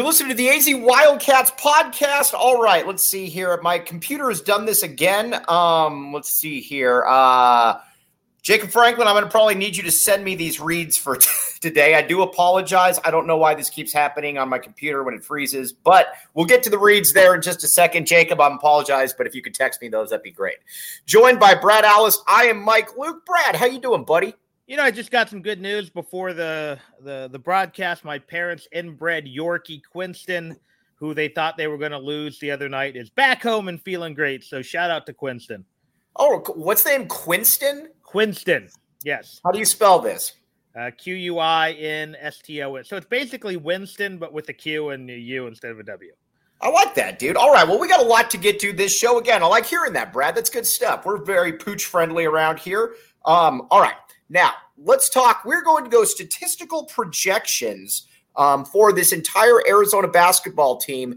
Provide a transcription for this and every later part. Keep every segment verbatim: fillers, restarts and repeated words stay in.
You're listening to the A Z Wildcats podcast. All right, let's see here. My computer has done this again. Um, let's see here. Uh, Jacob Franklin, I'm going to probably need you to send me these reads for t- today. I do apologize. I don't know why this keeps happening on my computer when it freezes, but we'll get to the reads there in just a second. Jacob, I apologize, but if you could text me those, that'd be great. Joined by Brad Allis, I am Mike Luke. Brad, how you doing, buddy? You know, I just got some good news before the, the, the broadcast. My parents' inbred Yorkie, Quinston, who they thought they were going to lose the other night, is back home and feeling great. So shout out to Quinston. Oh, what's the name? Quinston? Quinston, yes. How do you spell this? Uh, Q U I N S T O N. So it's basically Winston, but with a Q and a U instead of a W. I like that, dude. All right, well, we got a lot to get to this show. Again, I like hearing that, Brad. That's good stuff. We're very pooch-friendly around here. Um, all right. Now, let's talk. We're going to go statistical projections um, for this entire Arizona basketball team,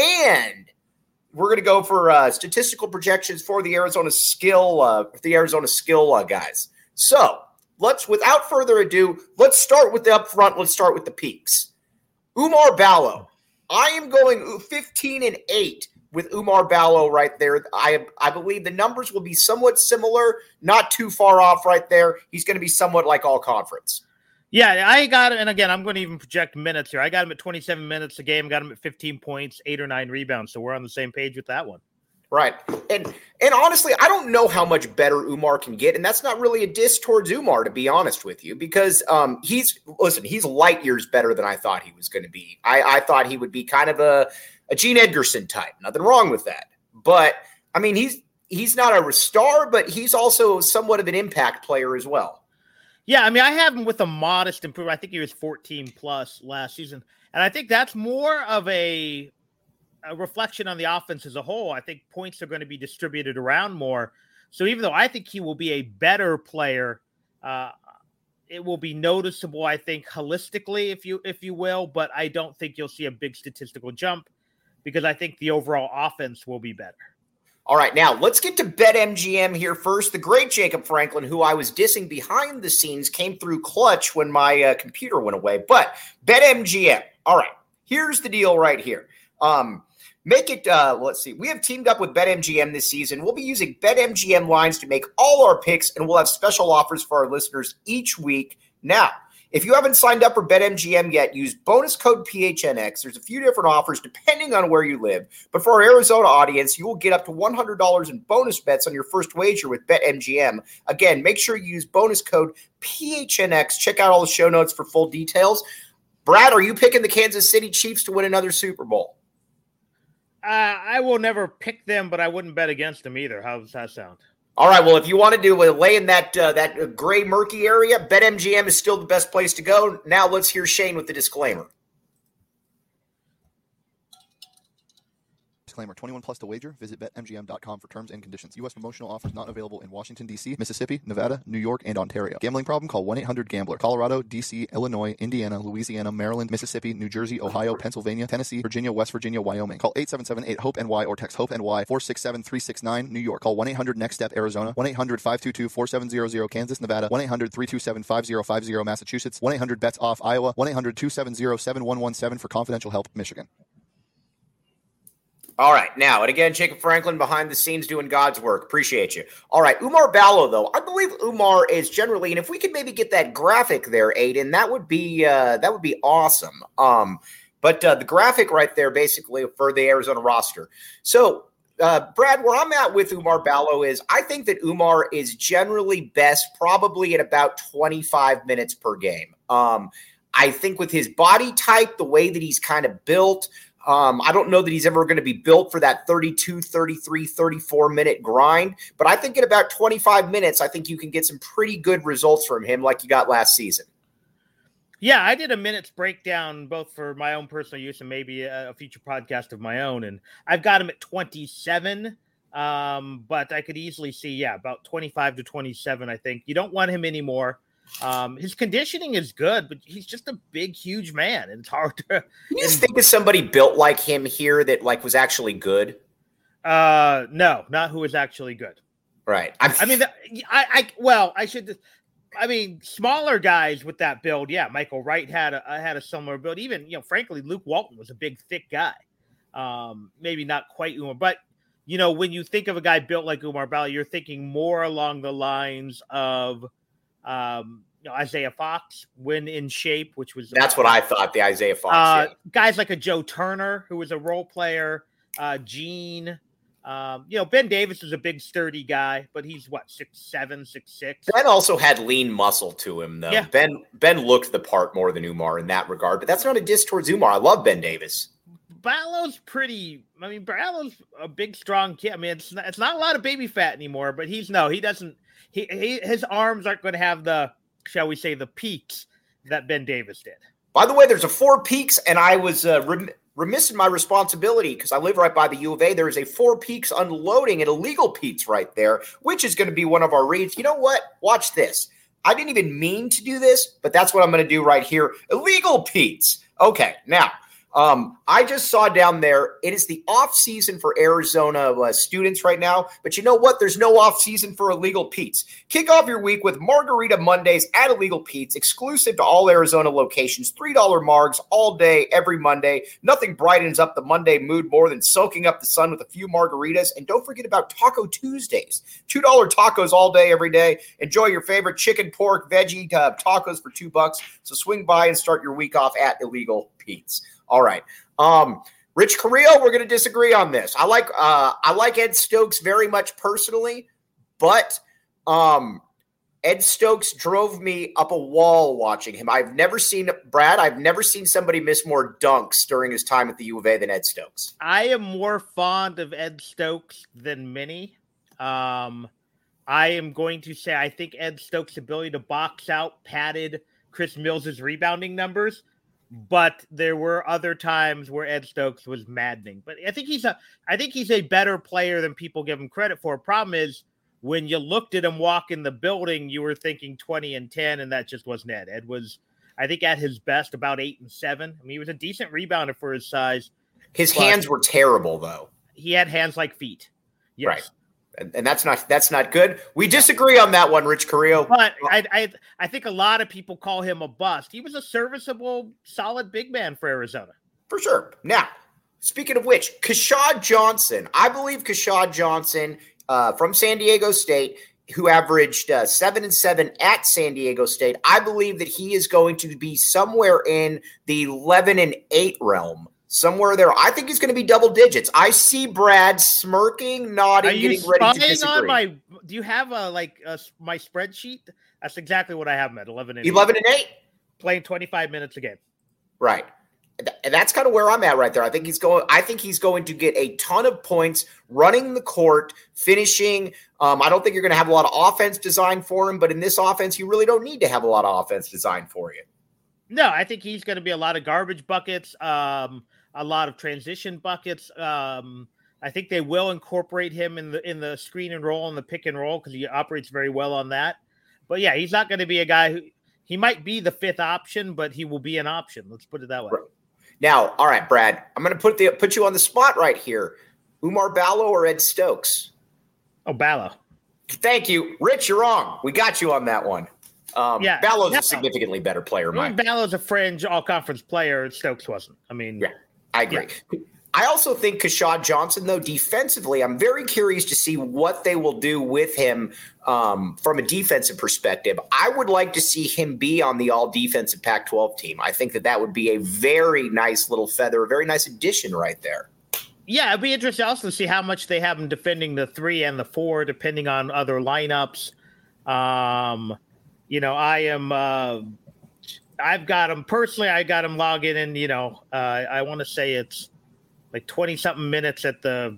and we're going to go for uh, statistical projections for the Arizona skill, uh, the Arizona skill uh, guys. So, let's, without further ado, let's start with the upfront. Let's start with the peaks. Oumar Ballo. I am going fifteen and eight. With Oumar Ballo right there. I I believe the numbers will be somewhat similar, not too far off right there. He's going to be somewhat like all conference. Yeah, I got him. And again, I'm going to even project minutes here. I got him at twenty-seven minutes a game, got him at fifteen points, eight or nine rebounds. So we're on the same page with that one. Right. And and honestly, I don't know how much better Oumar can get. And that's not really a diss towards Oumar, to be honest with you, because um, he's, listen, he's light years better than I thought he was going to be. I, I thought he would be kind of a, a Gene Edgerson type. Nothing wrong with that. But, I mean, he's he's not a star, but he's also somewhat of an impact player as well. Yeah, I mean, I have him with a modest improvement. I think he was fourteen plus last season. And I think that's more of a, a reflection on the offense as a whole. I think points are going to be distributed around more. So even though I think he will be a better player, uh, it will be noticeable, I think, holistically, if you if you will. But I don't think you'll see a big statistical jump, because I think the overall offense will be better. All right, now let's get to BetMGM here first. The great Jacob Franklin, who I was dissing behind the scenes, came through clutch when my uh, computer went away. But BetMGM, all right, here's the deal right here. Um, make it, uh, let's see, we have teamed up with BetMGM this season. We'll be using BetMGM lines to make all our picks, and we'll have special offers for our listeners each week. Now, if you haven't signed up for BetMGM yet, use bonus code P H N X. There's a few different offers depending on where you live. But for our Arizona audience, you will get up to one hundred dollars in bonus bets on your first wager with BetMGM. Again, make sure you use bonus code P H N X. Check out all the show notes for full details. Brad, are you picking the Kansas City Chiefs to win another Super Bowl? Uh, I will never pick them, but I wouldn't bet against them either. How does that sound? All right, well, if you want to do a lay in that uh, that gray, murky area, BetMGM is still the best place to go. Now let's hear Shane with the disclaimer. Disclaimer, twenty-one plus to wager. Visit Bet M G M dot com for terms and conditions. U S promotional offers not available in Washington, D C, Mississippi, Nevada, New York, and Ontario. Gambling problem? Call one eight hundred gambler. Colorado, D C, Illinois, Indiana, Louisiana, Maryland, Mississippi, New Jersey, Ohio, Pennsylvania, Tennessee, Virginia, West Virginia, Wyoming. Call eight seven seven eight hope N Y or text HOPE-NY four six seven three six nine. New York. Call one eight hundred next step Arizona. one eight hundred five two two four seven zero zero. Kansas, Nevada. one eight hundred three two seven five zero five zero. Massachusetts. one eight hundred bets off Iowa. one eight hundred two seven zero seven one one seven for confidential help, Michigan. All right. Now, and again, Jacob Franklin behind the scenes doing God's work. Appreciate you. All right. Oumar Ballo, though. I believe Oumar is generally, and if we could maybe get that graphic there, Aiden, that would be uh, that would be awesome. Um, but uh, the graphic right there, basically, for the Arizona roster. So, uh, Brad, where I'm at with Oumar Ballo is I think that Oumar is generally best probably at about twenty-five minutes per game. Um, I think with his body type, the way that he's kind of built, Um, I don't know that he's ever going to be built for that thirty-two, thirty-three, thirty-four minute grind, but I think in about twenty-five minutes, I think you can get some pretty good results from him like you got last season. Yeah, I did a minutes breakdown both for my own personal use and maybe a, a future podcast of my own, and I've got him at twenty-seven, um, but I could easily see, yeah, about twenty-five to twenty-seven, I think. You don't want him anymore. Um, his conditioning is good, but he's just a big, huge man, and it's hard to. You just think of somebody built like him here that like was actually good. Uh, no, not who is actually good. Right. I'm, I mean, the, I, I, well, I should. I mean, smaller guys with that build, yeah. Michael Wright had a had a similar build. Even, you know, frankly, Luke Walton was a big, thick guy. Um, maybe not quite Umar, but you know, when you think of a guy built like Umar Ballo, you're thinking more along the lines of, um, you know, Isaiah Fox when in shape, which was that's what I thought. The Isaiah Fox uh, yeah. guys like a Joe Turner, who was a role player, uh, Gene. Um, you know, Ben Davis is a big, sturdy guy, but he's what, six seven, six six. Ben also had lean muscle to him, though. Yeah. Ben Ben looked the part more than Umar in that regard, but that's not a diss towards Umar. I love Ben Davis. Ballo's pretty. I mean, Ballo's a big, strong kid. I mean, it's not, it's not a lot of baby fat anymore, but he's no, he doesn't. He, he his arms aren't going to have the, shall we say, the peaks that Ben Davis did. By the way, there's a Four Peaks, and I was uh, rem- remiss in my responsibility because I live right by the U of A. There is a Four Peaks unloading at Illegal Pete's right there, which is going to be one of our reads. You know what? Watch this. I didn't even mean to do this, but that's what I'm going to do right here. Illegal Pete's. Okay, now. Um, I just saw down there, it is the off season for Arizona uh, students right now, but you know what? There's no off season for Illegal Pete's. Kick off your week with Margarita Mondays at Illegal Pete's, exclusive to all Arizona locations, three dollar margs all day, every Monday. Nothing brightens up the Monday mood more than soaking up the sun with a few margaritas. And don't forget about Taco Tuesdays, two dollar tacos all day, every day. Enjoy your favorite chicken, pork, veggie uh, tacos for two bucks. So swing by and start your week off at Illegal Pete's. All right. Um, Rich Carrillo, we're going to disagree on this. I like uh, I like Ed Stokes very much personally, but um, Ed Stokes drove me up a wall watching him. I've never seen Brad. I've never seen somebody miss more dunks during his time at the U of A than Ed Stokes. I am more fond of Ed Stokes than many. Um, I am going to say I think Ed Stokes' ability to box out padded Chris Mills' rebounding numbers. But there were other times where Ed Stokes was maddening. But I think he's a, I think he's a better player than people give him credit for. Problem is, when you looked at him walk in the building, you were thinking twenty and ten, and that just wasn't Ed. Ed was, I think, at his best about eight and seven. I mean, he was a decent rebounder for his size. His hands were terrible, though. He had hands like feet. Yes. Right. And that's not that's not good. We disagree on that one, Rich Carrillo. But I, I I think a lot of people call him a bust. He was a serviceable, solid big man for Arizona. For sure. Now, speaking of which, Keshad Johnson. I believe Keshad Johnson uh, from San Diego State, who averaged uh, seven and seven at San Diego State. I believe that he is going to be somewhere in the eleven and eight realm. Somewhere there. I think he's going to be double digits. I see Brad smirking, nodding, Are you getting ready to disagree. On my, do you have a, like a, my spreadsheet? That's exactly what I have him at, eleven and eleven and eight? Playing twenty-five minutes a game. Right. And that's kind of where I'm at right there. I think he's going I think he's going to get a ton of points running the court, finishing. Um, I don't think you're going to have a lot of offense designed for him, but in this offense, you really don't need to have a lot of offense designed for you. No, I think he's going to be a lot of garbage buckets, um, a lot of transition buckets. Um, I think they will incorporate him in the in the screen and roll and the pick and roll because he operates very well on that. But yeah, he's not going to be a guy who he might be the fifth option, but he will be an option. Let's put it that way. Right. Now, all right, Brad, I'm going to put the put you on the spot right here. Umar Ballo or Ed Stokes? Oh, Ballo. Thank you, Rich. You're wrong. We got you on that one. Um, yeah, Ballo's no. a significantly better player. Mike. Ballo's a fringe all-conference player. Stokes wasn't. I mean, yeah, I agree. Yeah. I also think Keshad Johnson, though, defensively, I'm very curious to see what they will do with him um, from a defensive perspective. I would like to see him be on the all-defensive Pac twelve team. I think that that would be a very nice little feather, a very nice addition right there. Yeah, it'd be interesting also to see how much they have him defending the three and the four, depending on other lineups. Um You know, I am, uh, I've got him personally, I got him logging in, you know, uh, I want to say it's like twenty something minutes at the,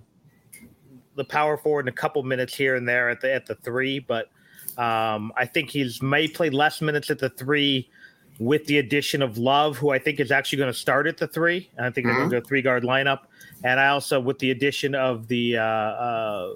the power forward and a couple minutes here and there at the, at the three. But um, I think he's may play less minutes at the three with the addition of Love, who I think is actually going to start at the three. And I think mm-hmm. they're going to go three guard lineup. And I also, with the addition of the, uh, uh,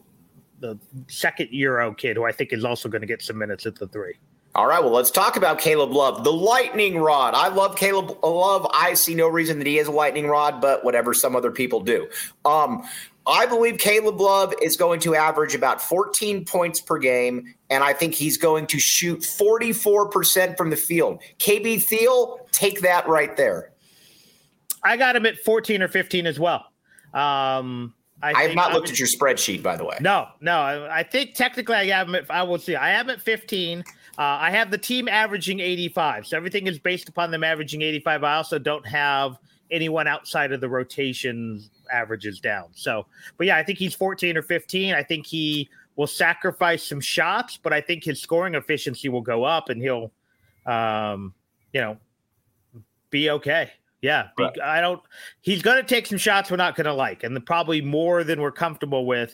the second Euro kid, who I think is also going to get some minutes at the three. All right, well, let's talk about Caleb Love, the lightning rod. I love Caleb Love. I see no reason that he is a lightning rod, but whatever, some other people do. Um, I believe Caleb Love is going to average about fourteen points per game, and I think he's going to shoot forty-four percent from the field. K B Thiel, take that right there. I got him at fourteen or fifteen as well. Um, I, I have not looked at your spreadsheet, by the way. No, no. I, I think technically I have him at, I will see. I have him at fifteen. Uh, I have the team averaging eighty-five. So everything is based upon them averaging eighty-five. I also don't have anyone outside of the rotation averages down. So, but yeah, I think he's fourteen or fifteen. I think he will sacrifice some shots, but I think his scoring efficiency will go up and he'll, um, you know, be okay. Yeah, right. I don't. He's going to take some shots we're not going to like, and probably more than we're comfortable with.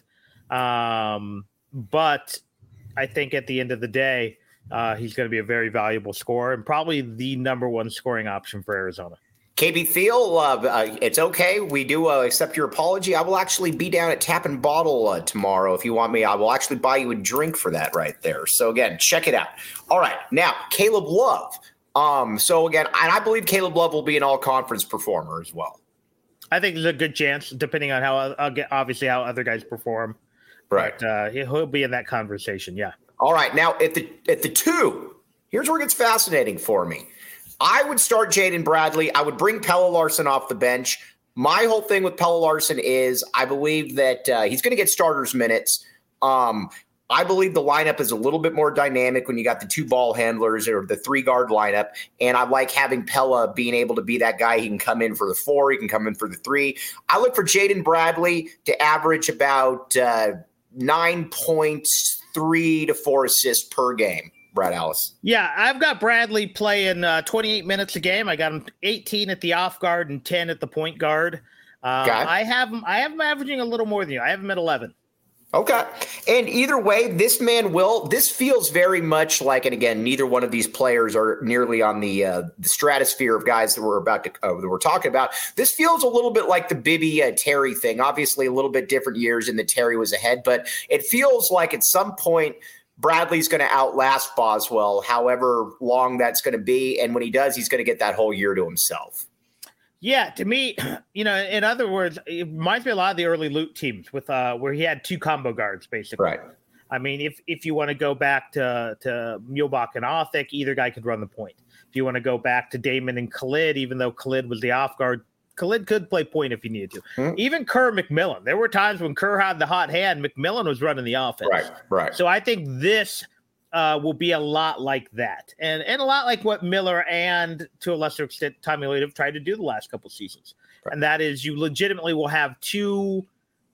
Um, but I think at the end of the day, uh, he's going to be a very valuable scorer and probably the number one scoring option for Arizona. K B Thiel, uh, uh, it's okay. We do uh, accept your apology. I will actually be down at Tap and Bottle uh, tomorrow. If you want me, I will actually buy you a drink for that right there. So again, check it out. All right, now Caleb Love. Um, so again, and I believe Caleb Love will be an all-conference performer as well. I think there's a good chance, depending on how uh, obviously how other guys perform. Right, but, uh, he'll be in that conversation. Yeah. All right, now at the at the two, here's where it gets fascinating for me. I would start Jaden Bradley. I would bring Pelle Larsson off the bench. My whole thing with Pelle Larsson is I believe that uh, he's going to get starters minutes. Um, I believe the lineup is a little bit more dynamic when you got the two ball handlers or the three guard lineup. And I like having Pelle being able to be that guy. He can come in for the four. He can come in for the three. I look for Jaden Bradley to average about uh, nine points, three to four assists per game. Brad Alice. Yeah, I've got Bradley playing uh, twenty-eight minutes a game. I got him eighteen at the off guard and ten at the point guard. Uh, I have him. I have him averaging a little more than you. I have him at eleven. Okay. And either way, this man will, this feels very much like, and again, neither one of these players are nearly on the, uh, the stratosphere of guys that we're about to, uh, that we're talking about. This feels a little bit like the Bibby uh, Terry thing, obviously a little bit different years in that Terry was ahead, but it feels like at some point Bradley's going to outlast Boswell, however long that's going to be. And when he does, he's going to get that whole year to himself. Yeah, to me, you know, in other words, it reminds me a lot of the early Luke teams with uh, where he had two combo guards, basically. Right. I mean, if if you want to go back to to Muehlbach and Othick, either guy could run the point. If you want to go back to Damon and Khalid, even though Khalid was the off guard, Khalid could play point if he needed to. Mm-hmm. Even Kerr McMillan. There were times when Kerr had the hot hand, McMillan was running the offense. Right, right. So I think this uh, will be a lot like that. And and a lot like what Miller and, to a lesser extent, Tommy Lloyd have tried to do the last couple seasons. Right. And that is you legitimately will have two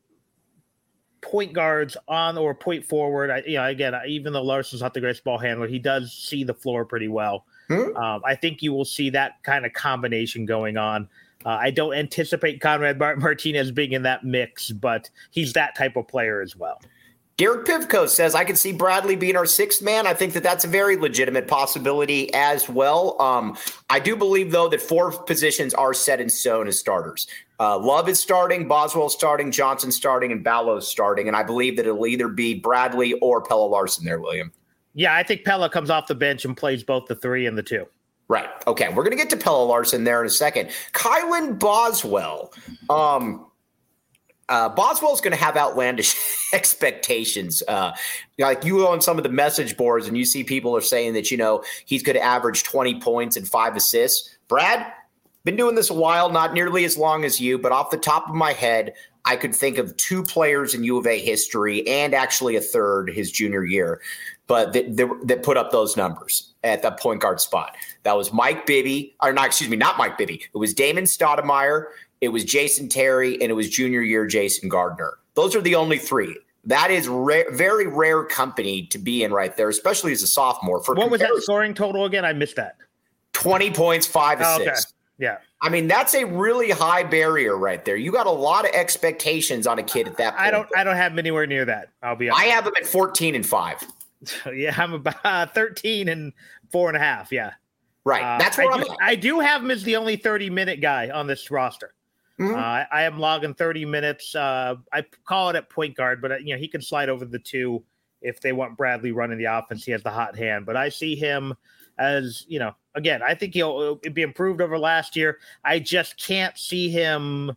point guards on or point forward. I, you know, again, even though Larson's not the greatest ball handler, he does see the floor pretty well. Mm-hmm. Um, I think you will see that kind of combination going on. Uh, I don't anticipate Conrad Martinez being in that mix, but he's that type of player as well. Derek Pivko says, I could see Bradley being our sixth man. I think that that's a very legitimate possibility as well. Um, I do believe, though, that four positions are set in stone as starters. Uh, Love is starting, Boswell starting, Johnson starting, and Ballows starting. And I believe that it'll either be Bradley or Pelle Larsson there, William. Yeah, I think Pelle comes off the bench and plays both the three and the two. Right. Okay. We're going to get to Pelle Larsson there in a second. Kylan Boswell. Um, uh, Boswell's going to have outlandish expectations. Uh, like you go on some of the message boards and you see people are saying that, you know, he's going to average twenty points and five assists. Brad, been doing this a while, not nearly as long as you, but off the top of my head, I could think of two players in U of A history and actually a third his junior year, but that, that, that put up those numbers at the point guard spot. That was Mike Bibby, or not, excuse me, not Mike Bibby. It was Damon Stoudemire, it was Jason Terry, and it was junior year Jason Gardner. Those are the only three. That is ra- very rare company to be in right there, especially as a sophomore. For what was that scoring total again? I missed that. twenty points, five assists. Oh, okay. Yeah. I mean, that's a really high barrier right there. You got a lot of expectations on a kid at that point. I don't I don't have him anywhere near that. I'll be honest. I have him at fourteen and five. Yeah, I'm about uh, thirteen and four and a half. Yeah. Right. Uh, That's what I I'm do, I do have him as the only thirty minute guy on this roster. Mm-hmm. Uh, I, I am logging thirty minutes. Uh, I call it at point guard, but uh, you know, he can slide over the two if they want Bradley running the offense. He has the hot hand, but I see him as, you know, again, I think he'll be improved over last year. I just can't see him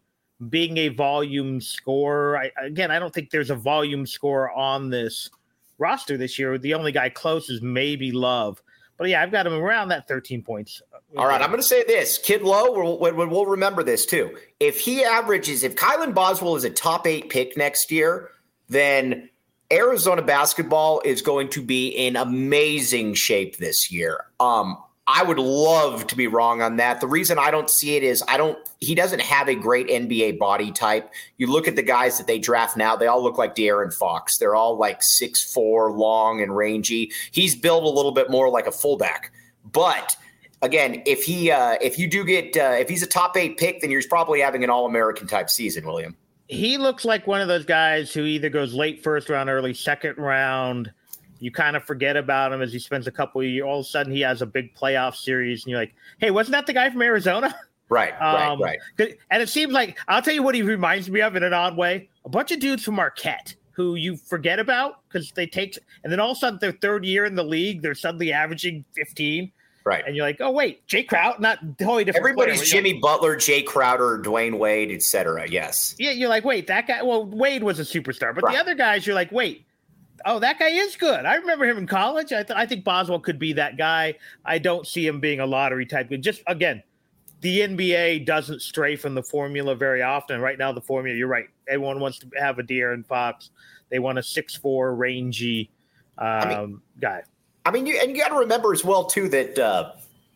being a volume scorer. I, again, I don't think there's a volume scorer on this roster this year. The only guy close is maybe Love. But yeah, I've got him around that thirteen points. All right, I'm going to say this. Kid Lowe, we'll, we'll, we'll remember this too. If he averages, if Kylan Boswell is a top eight pick next year, then Arizona basketball is going to be in amazing shape this year. Um, I would love to be wrong on that. The reason I don't see it is I don't – he doesn't have a great N B A body type. You look at the guys that they draft now, they all look like De'Aaron Fox. They're all like six foot four, long and rangy. He's built a little bit more like a fullback. But, again, if he uh, if you do get uh, – if he's a top eight pick, then you're probably having an All-American type season, William. He looks like one of those guys who either goes late first round, early second round – you kind of forget about him as he spends a couple of years. All of a sudden, he has a big playoff series, and you're like, hey, wasn't that the guy from Arizona? Right, um, right, right. And it seems like, I'll tell you what he reminds me of in an odd way. A bunch of dudes from Marquette who you forget about because they take – and then all of a sudden, their third year in the league, they're suddenly averaging fifteen. Right. And you're like, oh, wait, Jay Crowder, not totally different. Everybody's player. Jimmy like, Butler, Jay Crowder, Dwayne Wade, et cetera. Yes. Yeah, you're like, wait, that guy – well, Wade was a superstar. But right. the other guys, you're like, wait. Oh, that guy is good. I remember him in college. I, th- I think Boswell could be that guy. I don't see him being a lottery type. Just, again, the N B A doesn't stray from the formula very often. Right now, the formula, you're right. Everyone wants to have a De'Aaron Fox. They want a six foot four, rangy um, I mean, guy. I mean, you, and you got to remember as well, too, that uh,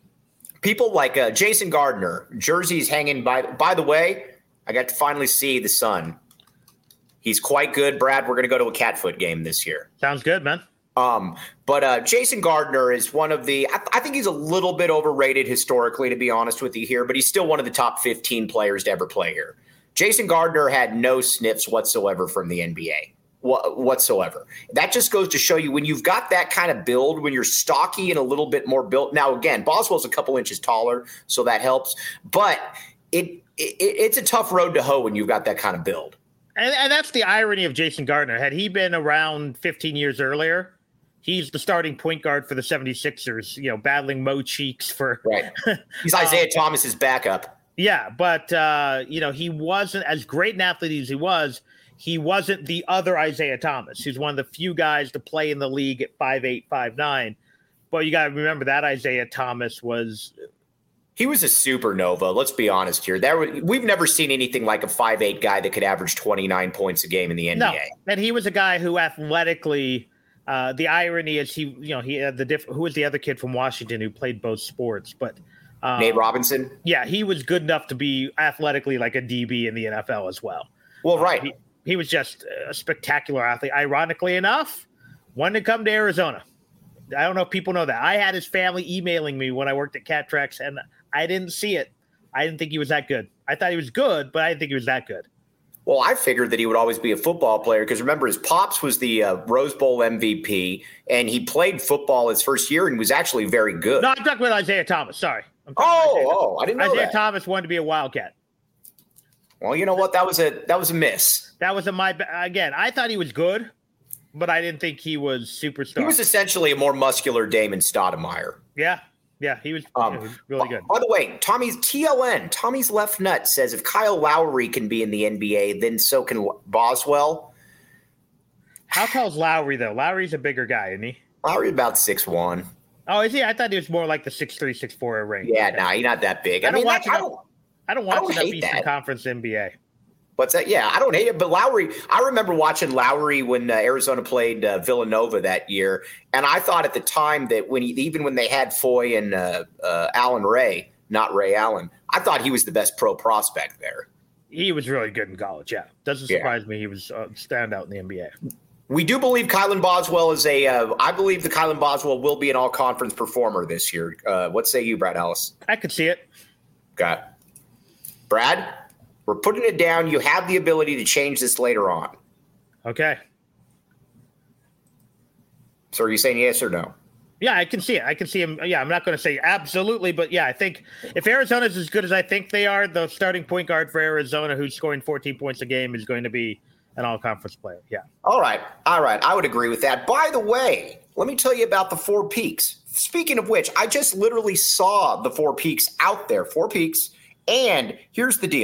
people like uh, Jason Gardner, jerseys hanging by. By the way, I got to finally see the son. He's quite good, Brad. We're going to go to a Catfoot game this year. Sounds good, man. Um, but uh, Jason Gardner is one of the I, – I think he's a little bit overrated historically, to be honest with you here, but he's still one of the top fifteen players to ever play here. Jason Gardner had no sniffs whatsoever from the N B A wh- whatsoever. That just goes to show you when you've got that kind of build, when you're stocky and a little bit more built. Now, again, Boswell's a couple inches taller, so that helps. But it, it it's a tough road to hoe when you've got that kind of build. And, and that's the irony of Jason Gardner. Had he been around fifteen years earlier, he's the starting point guard for the seventy-sixers, you know, battling Mo Cheeks for. Right. He's Isaiah um, Thomas's backup. Yeah, but, uh, you know, he wasn't as great an athlete as he was. He wasn't the other Isaiah Thomas. He's one of the few guys to play in the league at five eight, five nine. But you got to remember that Isaiah Thomas was. He was a supernova. Let's be honest here. There, we've never seen anything like a five eight guy that could average twenty-nine points a game in the N B A. No, and he was a guy who athletically, uh, the irony is he, you know, he had the diff- who was the other kid from Washington who played both sports, but um, Nate Robinson. Yeah, he was good enough to be athletically like a D B in the N F L as well. Well, right. Uh, he, he was just a spectacular athlete. Ironically enough, wanted to come to Arizona. I don't know if people know that. I had his family emailing me when I worked at Cat Tracks, and I didn't see it. I didn't think he was that good. I thought he was good, but I didn't think he was that good. Well, I figured that he would always be a football player because remember, his pops was the uh, Rose Bowl M V P, and he played football his first year and was actually very good. No, I'm talking about Isaiah Thomas. Sorry. I'm oh, Isaiah oh, I didn't know Isaiah that. Thomas wanted to be a Wildcat. Well, you know what? That was a that was a miss. That was a my again. I thought he was good, but I didn't think he was superstar. He was essentially a more muscular Damon Stoudemire. Yeah. Yeah, he was, um, he was really good. By the way, Tommy's T L N, Tommy's left nut says if Kyle Lowry can be in the N B A, then so can Boswell. How tall's Lowry, though? Lowry's a bigger guy, isn't he? Lowry about six one. Oh, is he? I thought he was more like the six three, six four range. Yeah, nah, he's not that big. I, I, don't mean, watch I, enough, I don't, I don't watch I don't enough hate Eastern that. Conference N B A. What's that? Yeah, I don't hate it. But Lowry, I remember watching Lowry when uh, Arizona played uh, Villanova that year. And I thought at the time that when he, even when they had Foy and uh, uh, Allen Ray, not Ray Allen, I thought he was the best pro prospect there. He was really good in college, yeah. Doesn't Yeah. surprise me he was a standout in the N B A. We do believe Kylan Boswell is a uh, – I believe the Kylan Boswell will be an all-conference performer this year. Uh, what say you, Brad Ellis? I could see it. Got it. Brad, we're putting it down. You have the ability to change this later on. Okay. So are you saying yes or no? Yeah, I can see it. I can see him. Yeah, I'm not going to say absolutely, but yeah, I think if Arizona's as good as I think they are, the starting point guard for Arizona who's scoring fourteen points a game is going to be an all-conference player. Yeah. All right. All right. I would agree with that. By the way, let me tell you about the Four Peaks. Speaking of which, I just literally saw the Four Peaks out there. Four Peaks. And here's the deal.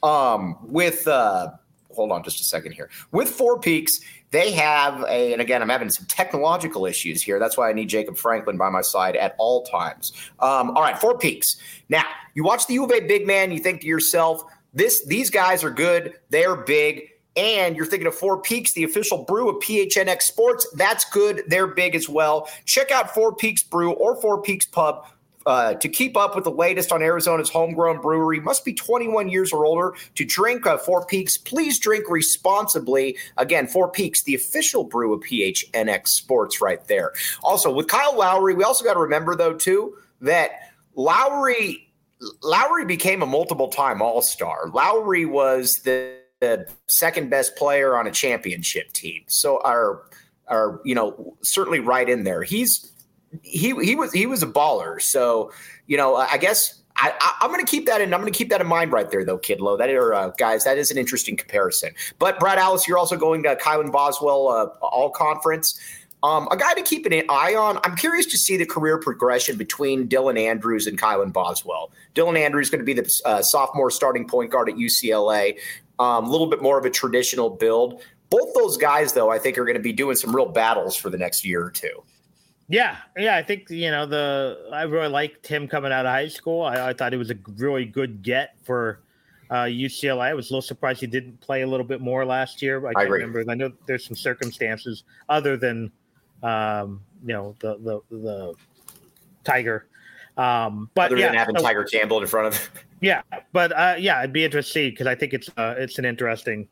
Um, with uh, hold on just a second here. With Four Peaks, they have a, and again, I'm having some technological issues here. That's why I need Jacob Franklin by my side at all times. Um, all right, Four Peaks. Now, you watch the U of A big man, you think to yourself, this these guys are good, they're big, and you're thinking of Four Peaks, the official brew of P H N X Sports. That's good, they're big as well. Check out Four Peaks Brew or Four Peaks Pub. Uh, to keep up with the latest on Arizona's homegrown brewery, must be twenty-one years or older to drink uh, Four Peaks. Please drink responsibly. Again, Four Peaks, the official brew of P H N X Sports right there. Also, with Kyle Lowry, we also got to remember, though, too, that Lowry, Lowry became a multiple-time All-Star. Lowry was the, the second best player on a championship team. So, are, are you know, certainly right in there. He's He he was he was a baller. So, you know, I guess I, I, I'm going to keep that in. I'm going to keep that in mind right there, though, Kidlow. That are uh, guys. That is an interesting comparison. But Brad Alice, you're also going to Kylan Boswell uh, All Conference. Um, a guy to keep an eye on. I'm curious to see the career progression between Dylan Andrews and Kylan Boswell. Dylan Andrews is going to be the uh, sophomore starting point guard at U C L A. A um, little bit more of a traditional build. Both those guys, though, I think are going to be doing some real battles for the next year or two. Yeah, yeah, I think, you know, the I really liked him coming out of high school. I, I thought he was a really good get for uh, U C L A. I was a little surprised he didn't play a little bit more last year. I, I can't agree. remember. I know there's some circumstances other than, um, you know, the the, the Tiger. Um, but other yeah, than having so, Tiger Campbell in front of. Yeah, but uh, yeah, I'd be interested to see because I think it's uh, it's an interesting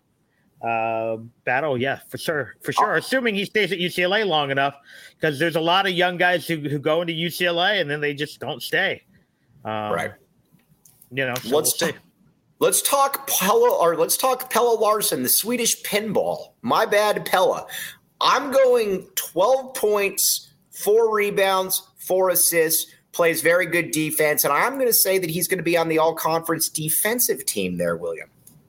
uh battle. Yeah, for sure, for sure. Oh. Assuming he stays at U C L A long enough, because there's a lot of young guys who, who go into U C L A and then they just don't stay. Um, right. You know. So let's we'll t- let's talk Pella, or let's talk Pelle Larsson, the Swedish pinball. My bad, Pella. I'm going twelve points, four rebounds, four assists. Plays very good defense, and I'm going to say that he's going to be on the all-conference defensive team there, William.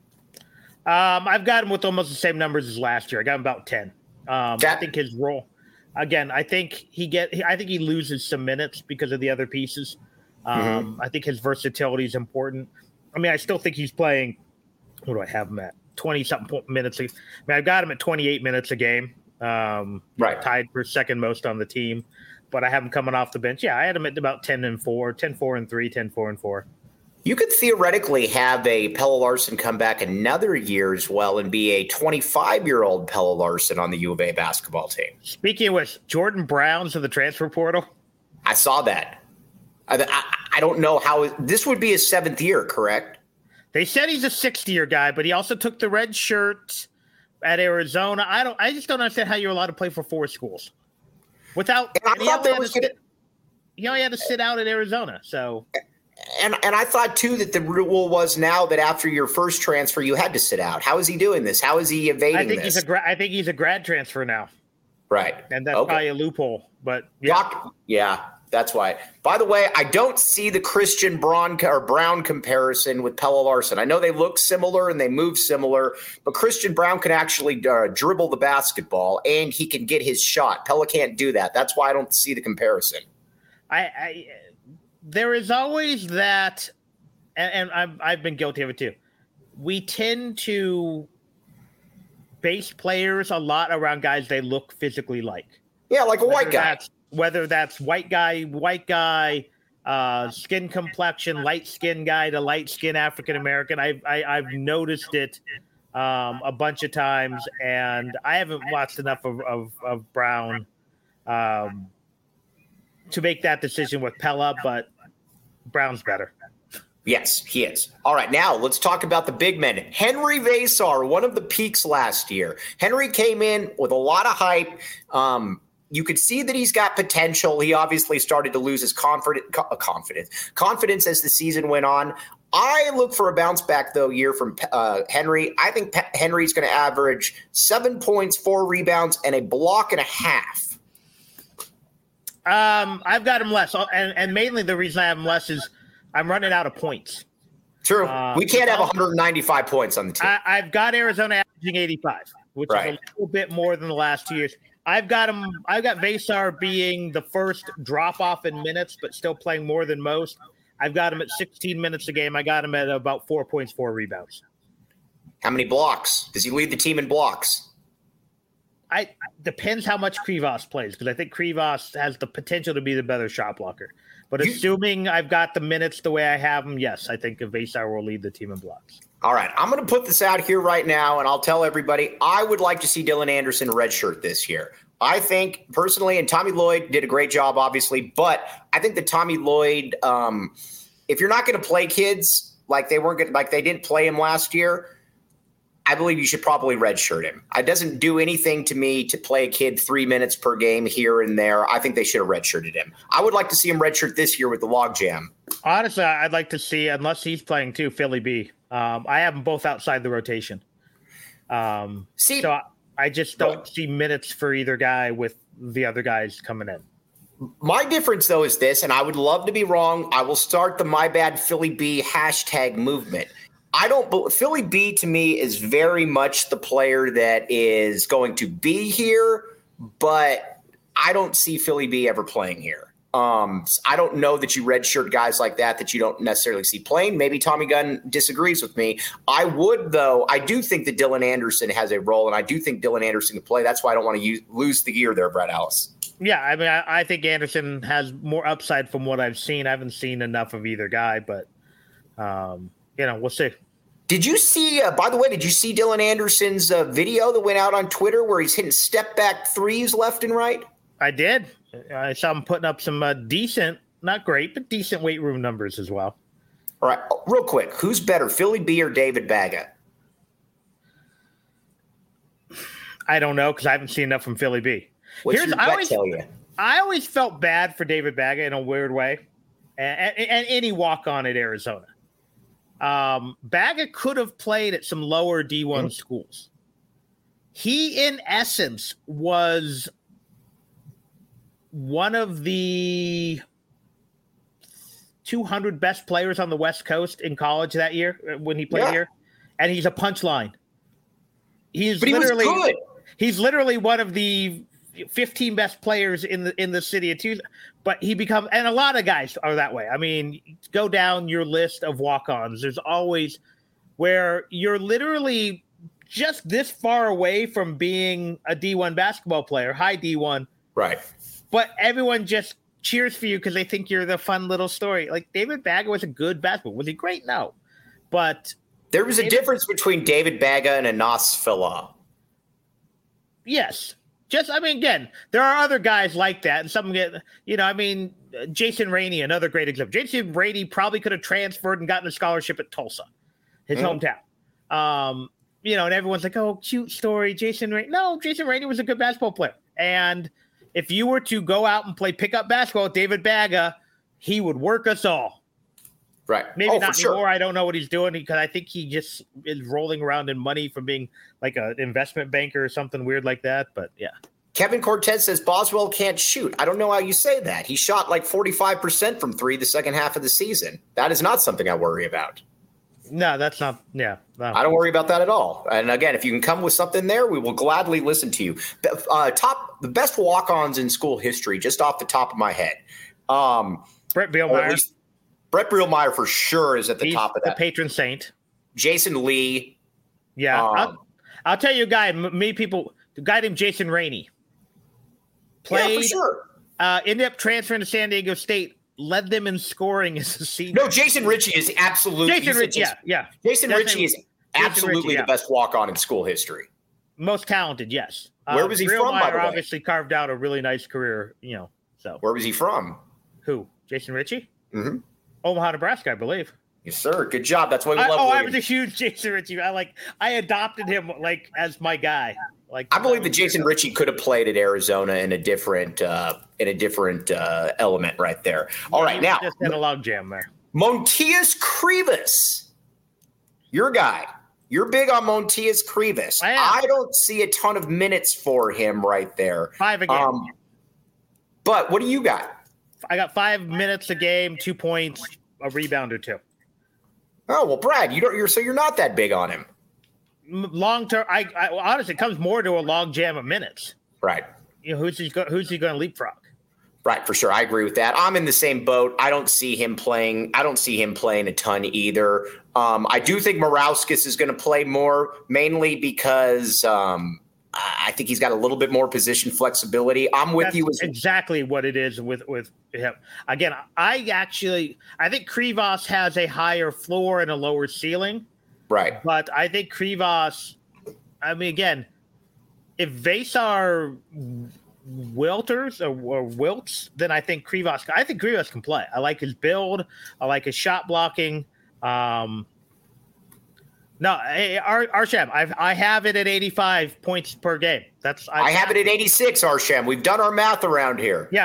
Um, I've got him with almost the same numbers as last year. I got him about ten. Um, that, I think his role, again, I think he get. I think he loses some minutes because of the other pieces. Um, mm-hmm. I think his versatility is important. I mean, I still think he's playing. What do I have him at? Twenty something minutes. I mean, I've got him at twenty-eight minutes a game. Um, right, tied for second most on the team. But I have him coming off the bench. Yeah, I had him at about ten and four, ten, four and three, ten, four and four. You could theoretically have a Pelle Larsson come back another year as well and be a twenty-five-year-old Pelle Larsson on the U of A basketball team. Speaking of which, Jordan Brown's of the transfer portal. I saw that. I, I, I don't know how – this would be his seventh year, correct? They said he's a sixth-year guy, but he also took the red shirt at Arizona. I don't. I just don't understand how you're allowed to play for four schools without – I thought there was – he only had to sit out at Arizona, so – And and I thought, too, that the rule was now that after your first transfer, you had to sit out. How is he doing this? How is he evading I think this? He's a gra- I think he's a grad transfer now. Right. And that's okay. probably a loophole. But yeah. Doc, yeah, that's why. By the way, I don't see the Christian Braun or Brown comparison with Pelle Larsson. I know they look similar and they move similar, but Christian Braun can actually uh, dribble the basketball and he can get his shot. Pelle can't do that. That's why I don't see the comparison. I, I – There is always that, and, and I've, I've been guilty of it too. We tend to base players a lot around guys they look physically like. Yeah, like a whether white guy. That's, whether that's white guy, white guy, uh, skin complexion, light skin guy to light skin African American. I've I, I've noticed it um, a bunch of times, and I haven't watched enough of of, of Brown. Um, to make that decision with Pella, but Brown's better. Yes, he is. All right, now let's talk about the big men. Henry Vesar, one of the peaks last year. Henry came in with a lot of hype. Um, you could see that he's got potential. He obviously started to lose his confidence, confidence, confidence as the season went on. I look for a bounce back, though, year from uh, Henry. I think Pe- Henry's going to average seven points, four rebounds, and a block and a half. Um, I've got him less, and, and mainly the reason I have him less is I'm running out of points. True. Uh, we can't have one hundred ninety-five points on the team. I, I've got Arizona averaging eighty-five, which right. is a little bit more than the last two years. I've got him. I've got Vesar being the first drop off in minutes, but still playing more than most. I've got him at sixteen minutes a game. I got him at about four points, four rebounds. How many blocks? Does he lead the team in blocks? I depends how much Krivas plays, because I think Krivas has the potential to be the better shot blocker. But you, assuming I've got the minutes the way I have them, yes, I think Vasar will lead the team in blocks. All right, I'm going to put this out here right now, and I'll tell everybody I would like to see Dylan Anderson redshirt this year. I think personally, and Tommy Lloyd did a great job, obviously, but I think that Tommy Lloyd, um, if you're not going to play kids like they weren't gonna, like they didn't play him last year, I believe you should probably redshirt him. It doesn't do anything to me to play a kid three minutes per game here and there. I think they should have redshirted him. I would like to see him redshirt this year with the logjam. Honestly, I'd like to see, unless he's playing too, Philly B. Um, I have them both outside the rotation. Um, see, so I, I just don't see minutes for either guy with the other guys coming in. My difference, though, is this, and I would love to be wrong. I will start the My Bad Philly B hashtag movement. I don't – Philly B to me is very much the player that is going to be here, but I don't see Philly B ever playing here. Um, I don't know that you redshirt guys like that that you don't necessarily see playing. Maybe Tommy Gunn disagrees with me. I would, though. I do think that Dylan Anderson has a role, and I do think Dylan Anderson can play. That's why I don't want to use, lose the gear there, Brett Alice. Yeah, I mean, I, I think Anderson has more upside from what I've seen. I haven't seen enough of either guy, but um, – you know, we'll see. Did you see, uh, by the way, did you see Dylan Anderson's uh, video that went out on Twitter where he's hitting step back threes left and right? I did. I saw him putting up some uh, decent, not great, but decent weight room numbers as well. All right. Real quick. Who's better, Philly B or David Baga? I don't know because I haven't seen enough from Philly B. What's Here's, your I gut always, tell you? I always felt bad for David Baga in a weird way, and, and, and any walk-on at Arizona. Um, Baga could have played at some lower D one mm-hmm. schools. He, in essence, was one of the two hundred best players on the West Coast in college that year when he played yeah. here, and he's a punchline. He's but he literally was good. He's literally one of the fifteen best players in the in the city of Tucson. But he becomes, and a lot of guys are that way. I mean, go down your list of walk-ons. There's always where you're literally just this far away from being a D one basketball player, high D one. Right. But everyone just cheers for you because they think you're the fun little story. Like David Baga was a good basketball. Was he great? No. But there was a David, difference between David Baga and Anas Fila. Yes. Just, I mean, again, there are other guys like that, and some get, you know, I mean, Jason Rainey, another great example. Jason Rainey probably could have transferred and gotten a scholarship at Tulsa, his mm. hometown. Um, you know, and everyone's like, oh, cute story, Jason Rainey. No, Jason Rainey was a good basketball player. And if you were to go out and play pickup basketball with David Baga, he would work us all. Right. Maybe oh, not for anymore. Sure. I don't know what he's doing because I think he just is rolling around in money from being like an investment banker or something weird like that. But yeah. Kevin Cortez says Boswell can't shoot. I don't know how you say that. He shot like forty-five percent from three the second half of the season. That is not something I worry about. No, that's not. Yeah. No. I don't worry about that at all. And again, if you can come with something there, we will gladly listen to you. Uh, top the best walk-ons in school history, just off the top of my head. Um, Brett Bielmeyer. Brett Bielmeyer for sure is at the He's top of that. The patron saint. Jason Lee. Yeah. Um, I'll, I'll tell you a guy, many people, the guy named Jason Rainey. Played, yeah, for sure. Uh, ended up transferring to San Diego State, led them in scoring as a senior. No, Jason Ritchie is absolutely. Jason Ritchie, yeah, yeah. Jason Ritchie is absolutely Ritchie, yeah. the best walk-on in school history. Most talented, yes. Where was he Real from, Meyer by the way? Obviously carved out a really nice career, you know. So where was he from? Who? Jason Ritchie? Mm-hmm. Omaha, Nebraska, I believe. Yes, sir. Good job. That's why we I, love. Oh, William. I was a huge Jason Ritchie. I like. I adopted him like as my guy. Like I believe that Jason Ritchie could have played at Arizona in a different uh, in a different uh, element right there. All yeah, right, now just had a log jam there. Montias Krivas, your guy. You're big on Montias Krivas. I, I don't see a ton of minutes for him right there. Five a game. Um, but what do you got? I got five minutes a game, two points, a rebound or two. Oh well, Brad, you don't. You're so you're not that big on him. Long term, I, I honestly, it comes more to a log jam of minutes. Right. You know, who's he? Go, who's he going to leapfrog? Right, for sure. I agree with that. I'm in the same boat. I don't see him playing. I don't see him playing a ton either. Um, I do think Morauskas is going to play more, mainly because um, I think he's got a little bit more position flexibility. I'm with That's you. As exactly what it is with with him. Again, I actually I think Krivas has a higher floor and a lower ceiling. Right. But I think Krivas, I mean, again, if Vasar wilters or, or wilts, then I think Krivas, I think Krivas can play. I like his build. I like his shot blocking. Um, no, hey, Ar- Arsham, I I have it at eighty-five points per game. That's I, I have it at eighty-six, Arsham. We've done our math around here. Yeah.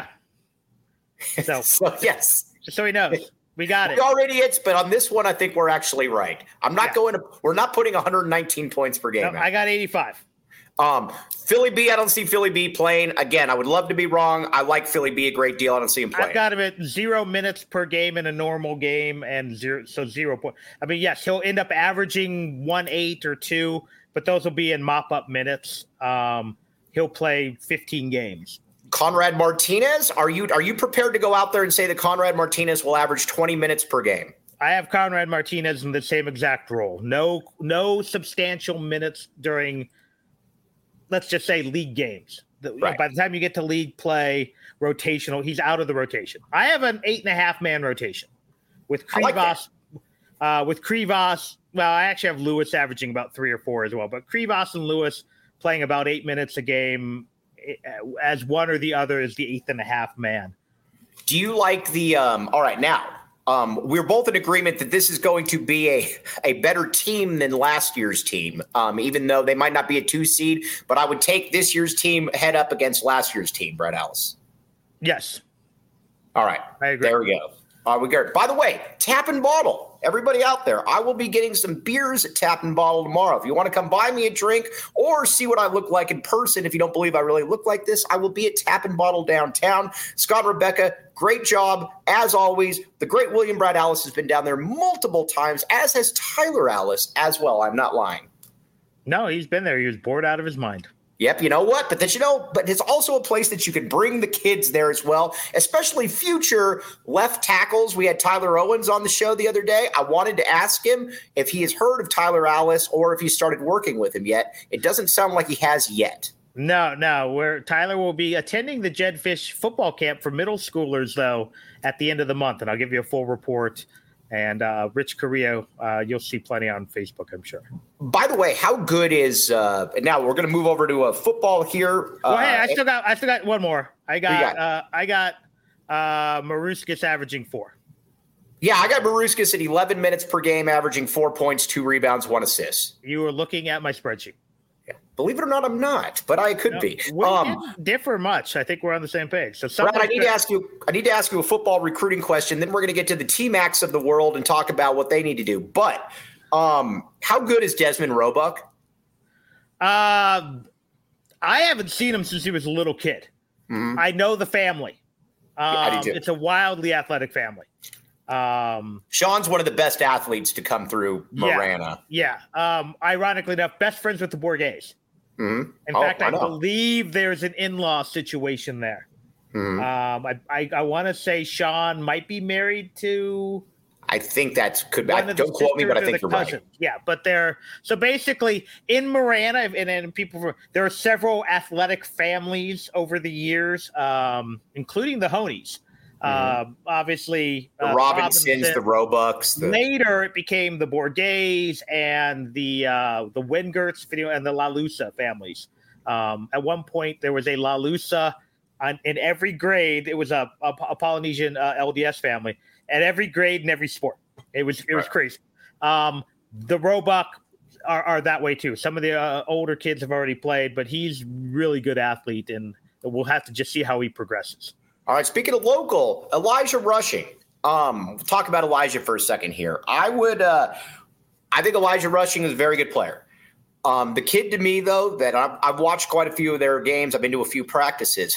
So, so yes. So he knows. We got it. We already hits, but on this one, I think we're actually right. I'm not yeah. going to – we're not putting one hundred nineteen points per game. No, I got eighty-five. Um, Philly B, I don't see Philly B playing. Again, I would love to be wrong. I like Philly B a great deal. I don't see him playing. I've got him at zero minutes per game in a normal game and zero, so zero point. I mean, yes, he'll end up averaging one eight or two, but those will be in mop-up minutes. Um, he'll play fifteen games. Conrad Martinez, are you are you prepared to go out there and say that Conrad Martinez will average twenty minutes per game? I have Conrad Martinez in the same exact role. No, no substantial minutes during, let's just say, league games. The, right. By the time you get to league play, rotational, he's out of the rotation. I have an eight and a half man rotation with Krivas. Like uh, with Krivas, well, I actually have Lewis averaging about three or four as well, but Krivas and Lewis playing about eight minutes a game as one or the other is the eighth and a half man. Do you like the um, – all right, now, um, we're both in agreement that this is going to be a, a better team than last year's team, um, even though they might not be a two seed. But I would take this year's team head up against last year's team, Brett Ellis. Yes. All right. I agree. There we go. Uh, we got, by the way, Tap and Bottle. Everybody out there, I will be getting some beers at Tap and Bottle tomorrow. If you want to come buy me a drink or see what I look like in person, if you don't believe I really look like this, I will be at Tap and Bottle downtown. Scott and Rebecca, great job. As always, the great William Brad Alice has been down there multiple times, as has Tyler Alice as well. I'm not lying. No, he's been there. He was bored out of his mind. Yep, you know what? But that you know, but it's also a place that you can bring the kids there as well, especially future left tackles. We had Tyler Owens on the show the other day. I wanted to ask him if he has heard of Tyler Alice or if he started working with him yet. It doesn't sound like he has yet. No, no. Where Tyler will be attending the Jedfish football camp for middle schoolers, though, at the end of the month, and I'll give you a full report. And uh, Rich Carrillo, uh, you'll see plenty on Facebook, I'm sure. By the way, how good is uh, – now we're going to move over to a football here. Well, uh, hey, I still got I still got one more. I got, got? Uh, I got uh, Maruskis averaging four. Yeah, I got Maruskis at eleven minutes per game, averaging four points, two rebounds, one assist. You were looking at my spreadsheet. Yeah. Believe it or not, I'm not, but I could no, be. We um, didn't differ much. I think we're on the same page. So, Brad, I need to ask you. I need to ask you a football recruiting question. Then we're going to get to the T-Max of the world and talk about what they need to do. But um, how good is Desmond Roebuck? Uh, I haven't seen him since he was a little kid. Mm-hmm. I know the family. Um, yeah, I do too. It's a wildly athletic family. Um, Sean's one of the best athletes to come through Marana. Yeah. yeah. Um, ironically enough, best friends with the Bourguets. Mm-hmm. In oh, fact, I, I believe there's an in-law situation there. Mm-hmm. Um, I I, I want to say Sean might be married to. I think that's could be. I, don't quote me, but I think you're cousin. right. Yeah, but they're so basically in Marana, and, and people. There are several athletic families over the years, um, including the Honeys. Mm-hmm. Uh, obviously, the uh, Robinsons, Robinson. the Roebucks. The... Later, it became the Bourguets and the uh, the Wingerts, video, and the La Lusa families. Um, at one point, there was a La Lusa on, in every grade. It was a, a, a Polynesian uh, L D S family at every grade and every sport. It was it was right. crazy. Um, the Roebuck are, are that way too. Some of the uh, older kids have already played, but he's really good athlete, and we'll have to just see how he progresses. All right, speaking of local, Elijah Rushing. Um, we'll talk about Elijah for a second here. I would, uh, I think Elijah Rushing is a very good player. Um, the kid to me, though, that I've, I've watched quite a few of their games. I've been to a few practices.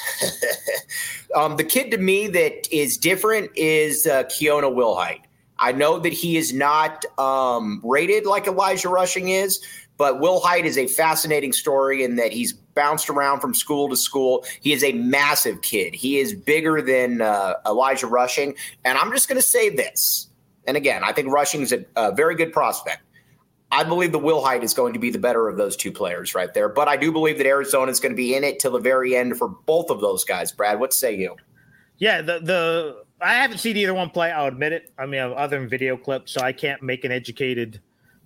um, the kid to me that is different is uh, Keona Wilhite. I know that he is not um, rated like Elijah Rushing is, but Wilhite is a fascinating story in that he's bounced around from school to school. He is a massive kid. He is bigger than uh, Elijah Rushing. And I'm just going to say this. and again, I think rushing is a, a very good prospect. I believe the Will Height is going to be the better of those two players right there. But I do believe that Arizona is going to be in it till the very end for both of those guys. Brad, what say you? Yeah, the the I haven't seen either one play. I'll admit it. I mean, other than video clips, so I can't make an educated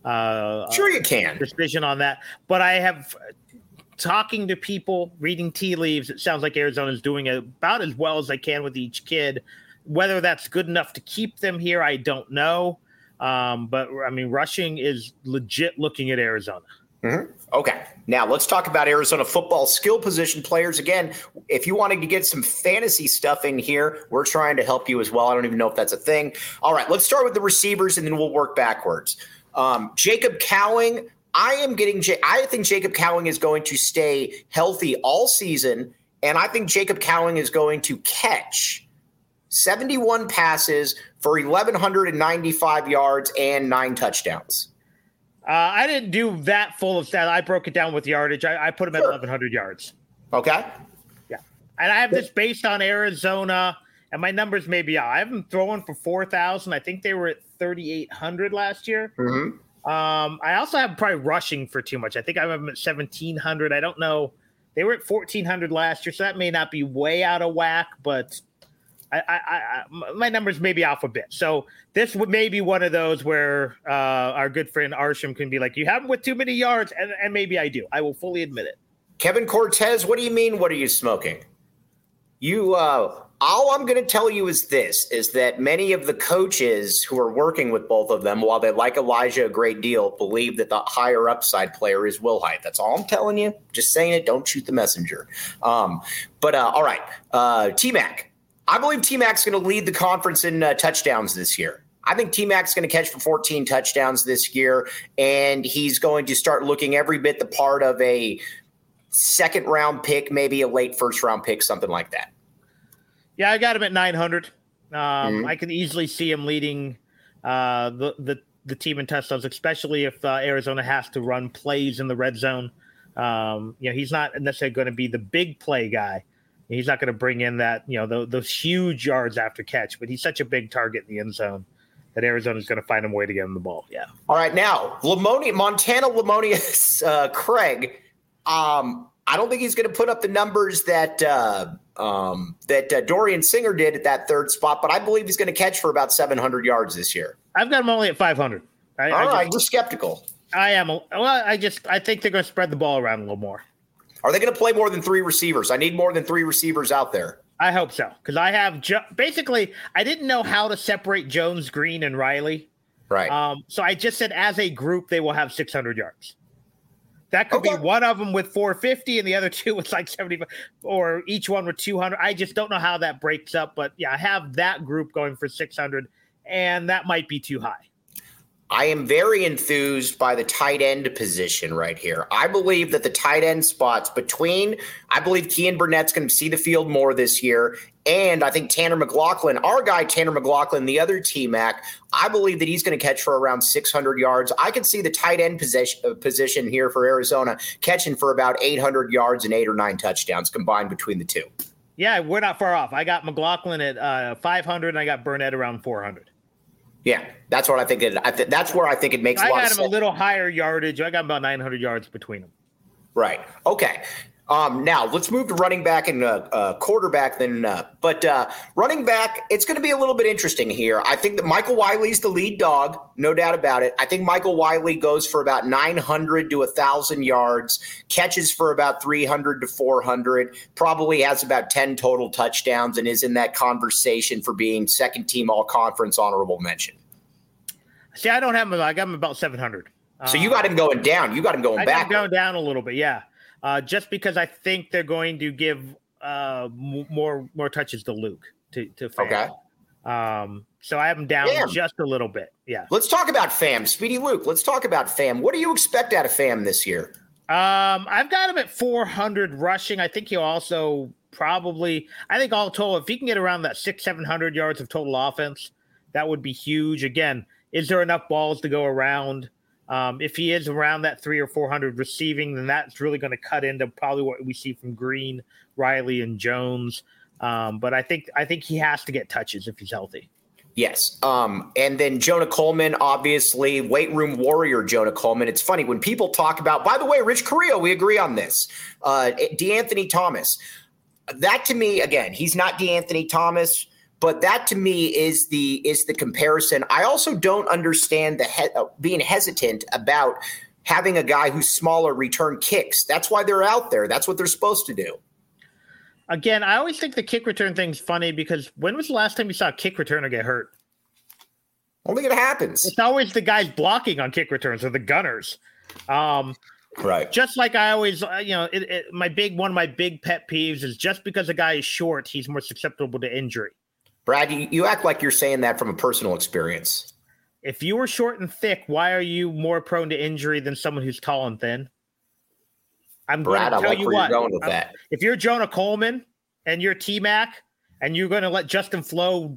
uh, sure you can decision on that. But I have talking to people, reading tea leaves. It sounds like Arizona is doing about as well as they can with each kid. Whether that's good enough to keep them here, I don't know. Um, but, I mean, rushing is legit looking at Arizona. Mm-hmm. Okay. Now let's talk about Arizona football skill position players. Again, if you wanted to get some fantasy stuff in here, we're trying to help you as well. I don't even know if that's a thing. All right, let's start with the receivers and then we'll work backwards. Um, Jacob Cowing, I am getting, J- I think Jacob Cowing is going to stay healthy all season. And I think Jacob Cowing is going to catch seventy-one passes for eleven ninety-five yards and nine touchdowns. Uh, I didn't do that full of stats. I broke it down with yardage. I, I put him at sure. eleven hundred yards. Okay. Yeah. And I have this based on Arizona, and my numbers may be out. I have them throwing for four thousand. I think they were at thirty-eight hundred last year. Mm-hmm. Um, I also have probably rushing for too much. I think I have them at seventeen hundred. I don't know. They were at fourteen hundred last year, so that may not be way out of whack, but – I, I, I, my numbers may be off a bit. So this would may be one of those where uh, our good friend Arsham can be like, you have him with too many yards, and, and maybe I do. I will fully admit it. Kevin Cortez, what do you mean? What are you smoking? You, uh, all I'm going to tell you is this, is that many of the coaches who are working with both of them, while they like Elijah a great deal, believe that the higher upside player is Will Height. That's all I'm telling you. Just saying it. Don't shoot the messenger. Um, but uh, all right, uh, T-Mac. I believe T-Mac's going to lead the conference in uh, touchdowns this year. I think T-Mac's going to catch for fourteen touchdowns this year, and he's going to start looking every bit the part of a second-round pick, maybe a late first-round pick, something like that. Yeah, I got him at nine hundred. Um, mm-hmm. I can easily see him leading uh, the, the, the team in touchdowns, especially if uh, Arizona has to run plays in the red zone. Um, you know, he's not necessarily going to be the big play guy. He's not going to bring in that, you know, those, those huge yards after catch, but he's such a big target in the end zone that Arizona's going to find a way to get him the ball. Yeah. All right. Now, Lamoni- Montana Lamonius uh, Craig, um, I don't think he's going to put up the numbers that uh, um, that uh, Dorian Singer did at that third spot, but I believe he's going to catch for about seven hundred yards this year. I've got him only at five hundred. I, All I right. Just, you're skeptical. I am. Well, I just I think they're going to spread the ball around a little more. Are they going to play more than three receivers? I need more than three receivers out there. I hope so, because I have jo- basically I didn't know how to separate Jones, Green, and Riley. Right. Um, so I just said as a group they will have six hundred yards. That could Okay. be one of them with four fifty and the other two with like seventy-five, or each one with two hundred. I just don't know how that breaks up, but yeah, I have that group going for six hundred, and that might be too high. I am very enthused by the tight end position right here. I believe that the tight end spots between, I believe Kean Burnett's going to see the field more this year. And I think Tanner McLaughlin, our guy Tanner McLaughlin, the other T-Mac, I believe that he's going to catch for around six hundred yards. I can see the tight end position, uh, position here for Arizona catching for about eight hundred yards and eight or nine touchdowns combined between the two. Yeah, we're not far off. I got McLaughlin at uh, five hundred and I got Burnett around four hundred. Yeah, that's what I think. It, I th- that's where I think it makes a I lot got of him sense. a little higher yardage. I got about nine hundred yards between them. Right. Okay. Um, now let's move to running back and uh, uh, quarterback. Then, uh, but uh, running back, it's going to be a little bit interesting here. I think that Michael Wiley's the lead dog, no doubt about it. I think Michael Wiley goes for about nine hundred to a thousand yards, catches for about three hundred to four hundred, probably has about ten total touchdowns, and is in that conversation for being second team all conference honorable mention. See, I don't have him. I got him about seven hundred. So you got him going down. You got him going I back. got him going down a little bit, yeah. Uh, just because I think they're going to give uh, m- more more touches to Luke to to Fam. Okay. Um, so I have him down Fam. just a little bit. Yeah. Let's talk about Fam. Speedy Luke, let's talk about Fam. What do you expect out of Fam this year? Um, I've got him at four hundred rushing. I think he'll also probably, I think all total, if he can get around that six, seven hundred yards of total offense, that would be huge. Again, is there enough balls to go around? Um, if he is around that three or four hundred receiving, then that's really going to cut into probably what we see from Green, Riley, and Jones. Um, but I think I think he has to get touches if he's healthy. Yes. Um, and then Jonah Coleman, obviously, weight room warrior Jonah Coleman. It's funny when people talk about, by the way, Rich Carrillo, we agree on this. Uh, DeAnthony Thomas. That to me, again, he's not DeAnthony Thomas, but that to me is the is the comparison. I also don't understand the he- uh, being hesitant about having a guy who's smaller return kicks. That's why they're out there. That's what they're supposed to do. Again, I always think the kick return thing's funny because when was the last time you saw a kick returner get hurt? I don't think it happens. It's always the guys blocking on kick returns or the gunners. Um, right. Just like I always, uh, you know, it, it, my big one of my big pet peeves is just because a guy is short, he's more susceptible to injury. Brad, you, you act like you're saying that from a personal experience. If you were short and thick, why are you more prone to injury than someone who's tall and thin? I'm Brad, going to tell I like you where what. You're going with that. If you're Jonah Coleman and you're T-Mac and you're going to let Justin Flo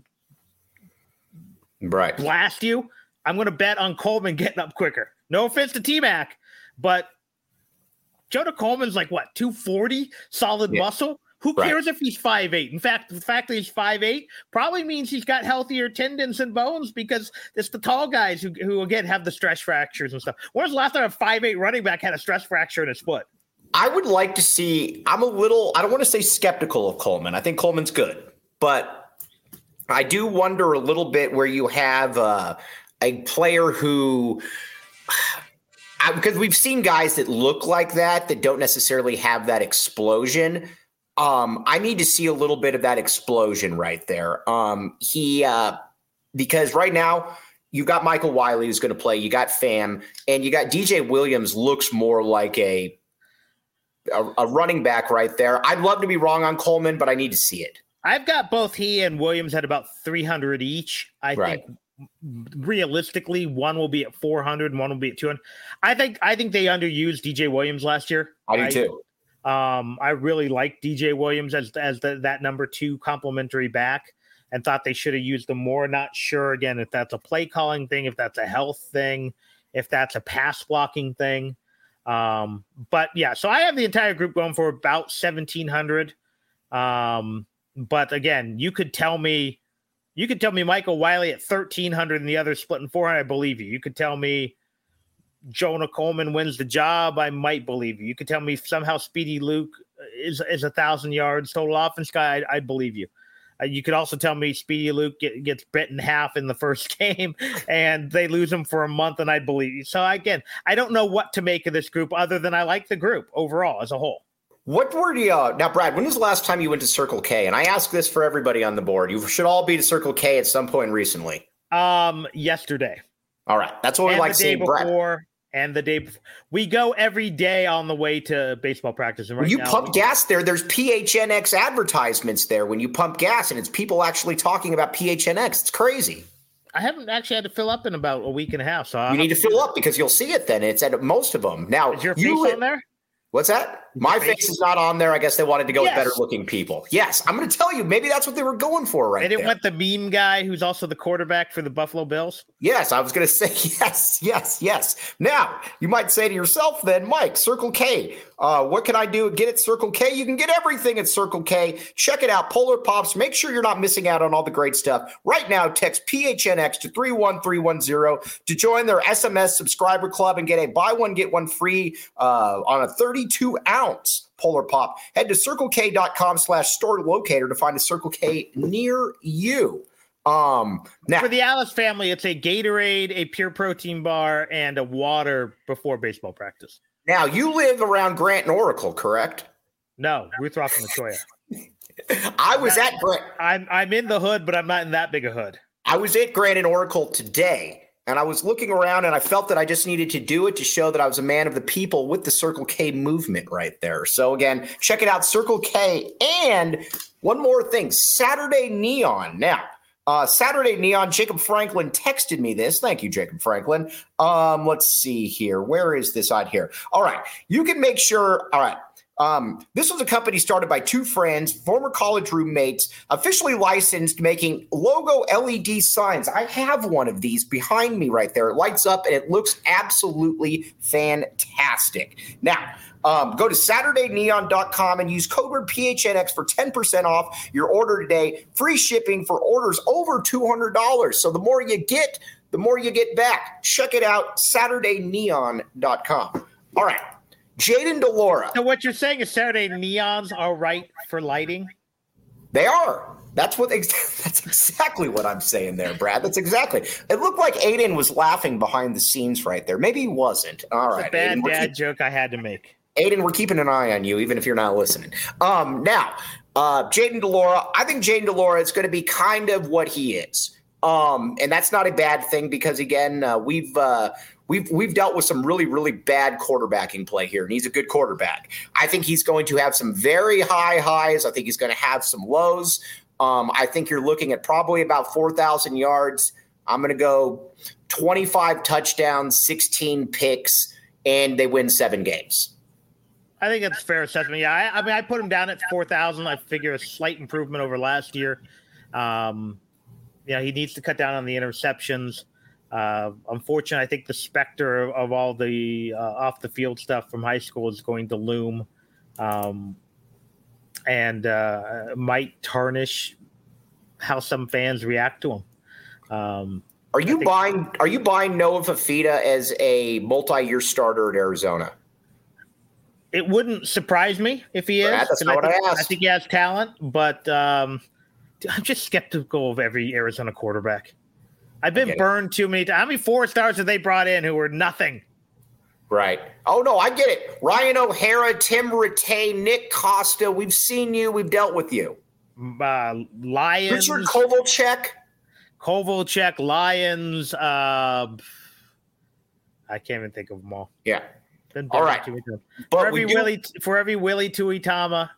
right. blast you, I'm going to bet on Coleman getting up quicker. No offense to T-Mac, but Jonah Coleman's like, what, two forty? Solid yeah. muscle? Who cares right. if he's five eight? In fact, the fact that he's five eight probably means he's got healthier tendons and bones because it's the tall guys who, who again, have the stress fractures and stuff. When was the last time a five eight running back had a stress fracture in his foot? I would like to see – I'm a little – I don't want to say skeptical of Coleman. I think Coleman's good. But I do wonder a little bit where you have uh, a player who – because we've seen guys that look like that that don't necessarily have that explosion. Um, I need to see a little bit of that explosion right there. Um, he uh, because right now you've got Michael Wiley who's going to play. You got Pham, and you got D J Williams. Looks more like a, a a running back right there. I'd love to be wrong on Coleman, but I need to see it. I've got both he and Williams at about three hundred each. I right. think realistically, one will be at four hundred and one will be at two hundred. I think I think they underused D J Williams last year. I do I, too. Um, I really like D J Williams as as the, that number two complimentary back, and thought they should have used him more. Not sure again if that's a play calling thing, if that's a health thing, if that's a pass blocking thing. Um, but yeah, so I have the entire group going for about seventeen hundred. Um, but again, you could tell me, you could tell me Michael Wiley at thirteen hundred and the other splitting four hundred. I believe you. You could tell me Jonah Coleman wins the job, I might believe you. You could tell me somehow Speedy Luke is is a thousand yards total offense guy, I, I believe you. Uh, you could also tell me Speedy Luke get, gets bit in half in the first game and they lose him for a month, and I believe you. So again, I don't know what to make of this group other than I like the group overall as a whole. What were the uh, now, Brad? When was the last time you went to Circle K? And I ask this for everybody on the board. You should all be to Circle K at some point recently. Um, yesterday. All right, that's what we and like the day seeing, before, Brad. And the day before. We go every day on the way to baseball practice. And right when you now, pump gas there, there's P H N X advertisements there when you pump gas, and it's people actually talking about P H N X. It's crazy. I haven't actually had to fill up in about a week and a half. So I'll you need to fill up because you'll see it then. It's at most of them. Now, is your face you, on there? What's that? My face? face is not on there. I guess they wanted to go yes. with better looking people. Yes, I'm going to tell you, maybe that's what they were going for right They didn't there. want the meme guy who's also the quarterback for the Buffalo Bills? Yes, I was going to say yes, yes, yes. Now, you might say to yourself then, Mike, Circle K, uh, what can I do? Get at Circle K? You can get everything at Circle K. Check it out, Polar Pops. Make sure you're not missing out on all the great stuff. Right now, text P H N X to three one three one zero to join their S M S subscriber club and get a buy one, get one free uh, on a thirty-two ounce Polar Pop. Head to circlek.com slash store locator to find a Circle K near you. Um, now, for the Alice family, it's a Gatorade, a pure protein bar, and a water before baseball practice. Now, you live around Grant and Oracle, correct? No, Ruth Ross and Latoya. I was not, at Grant. I'm I'm in the hood, but I'm not in that big a hood. I was at Grant and Oracle today. And I was looking around and I felt that I just needed to do it to show that I was a man of the people with the Circle K movement right there. So again, check it out, Circle K. And one more thing, Saturday Neon. Now, uh, Saturday Neon, Jacob Franklin texted me this. Thank you, Jacob Franklin. Um, let's see here. Where is this on here? All right. You can make sure. All right. Um, this was a company started by two friends, former college roommates, officially licensed, making logo L E D signs. I have one of these behind me right there. It lights up and it looks absolutely fantastic. Now, Um, go to Saturday Neon dot com and use code word P H N X for ten percent off your order today. Free shipping for orders over two hundred dollars. So the more you get, the more you get back. Check it out, Saturday Neon dot com. All right, Jayden de Laura. So what you're saying is Saturday neons are right for lighting? They are. That's what. That's exactly what I'm saying there, Brad. That's exactly. It looked like Aiden was laughing behind the scenes right there. Maybe he wasn't. All right, it's a bad Aiden, dad keep, joke I had to make. Aiden, we're keeping an eye on you, even if you're not listening. Um, now, uh, Jayden de Laura. I think Jayden de Laura is going to be kind of what he is, um, and that's not a bad thing because again, uh, we've. Uh, We've we've dealt with some really, really bad quarterbacking play here, and he's a good quarterback. I think he's going to have some very high highs. I think he's going to have some lows. Um, I think you're looking at probably about four thousand yards. I'm going to go twenty-five touchdowns, sixteen picks, and they win seven games. I think that's a fair assessment. Yeah, I, I mean, I put him down at four thousand. I figure a slight improvement over last year. Um, you know, he needs to cut down on the interceptions. Uh, unfortunately, I think the specter of, of all the uh, off the field stuff from high school is going to loom, um, and uh, might tarnish how some fans react to him. Um, are you think, buying? Are you buying Noah Fifita as a multi-year starter at Arizona? It wouldn't surprise me if he is. Brad, that's not I what think, I asked. I think he has talent, but um, I'm just skeptical of every Arizona quarterback. I've been burned too many times. How many four stars have they brought in who were nothing? Right. Oh, no, I get it. Ryan O'Hara, Tim Rattay, Nick Costa. We've seen you. We've dealt with you. Uh, Lions. Richard Kovalchuk. Kovalchuk, Lions. Uh, I can't even think of them all. Yeah. Been all right. But for every, do- Willie, for every Willie Tuitama,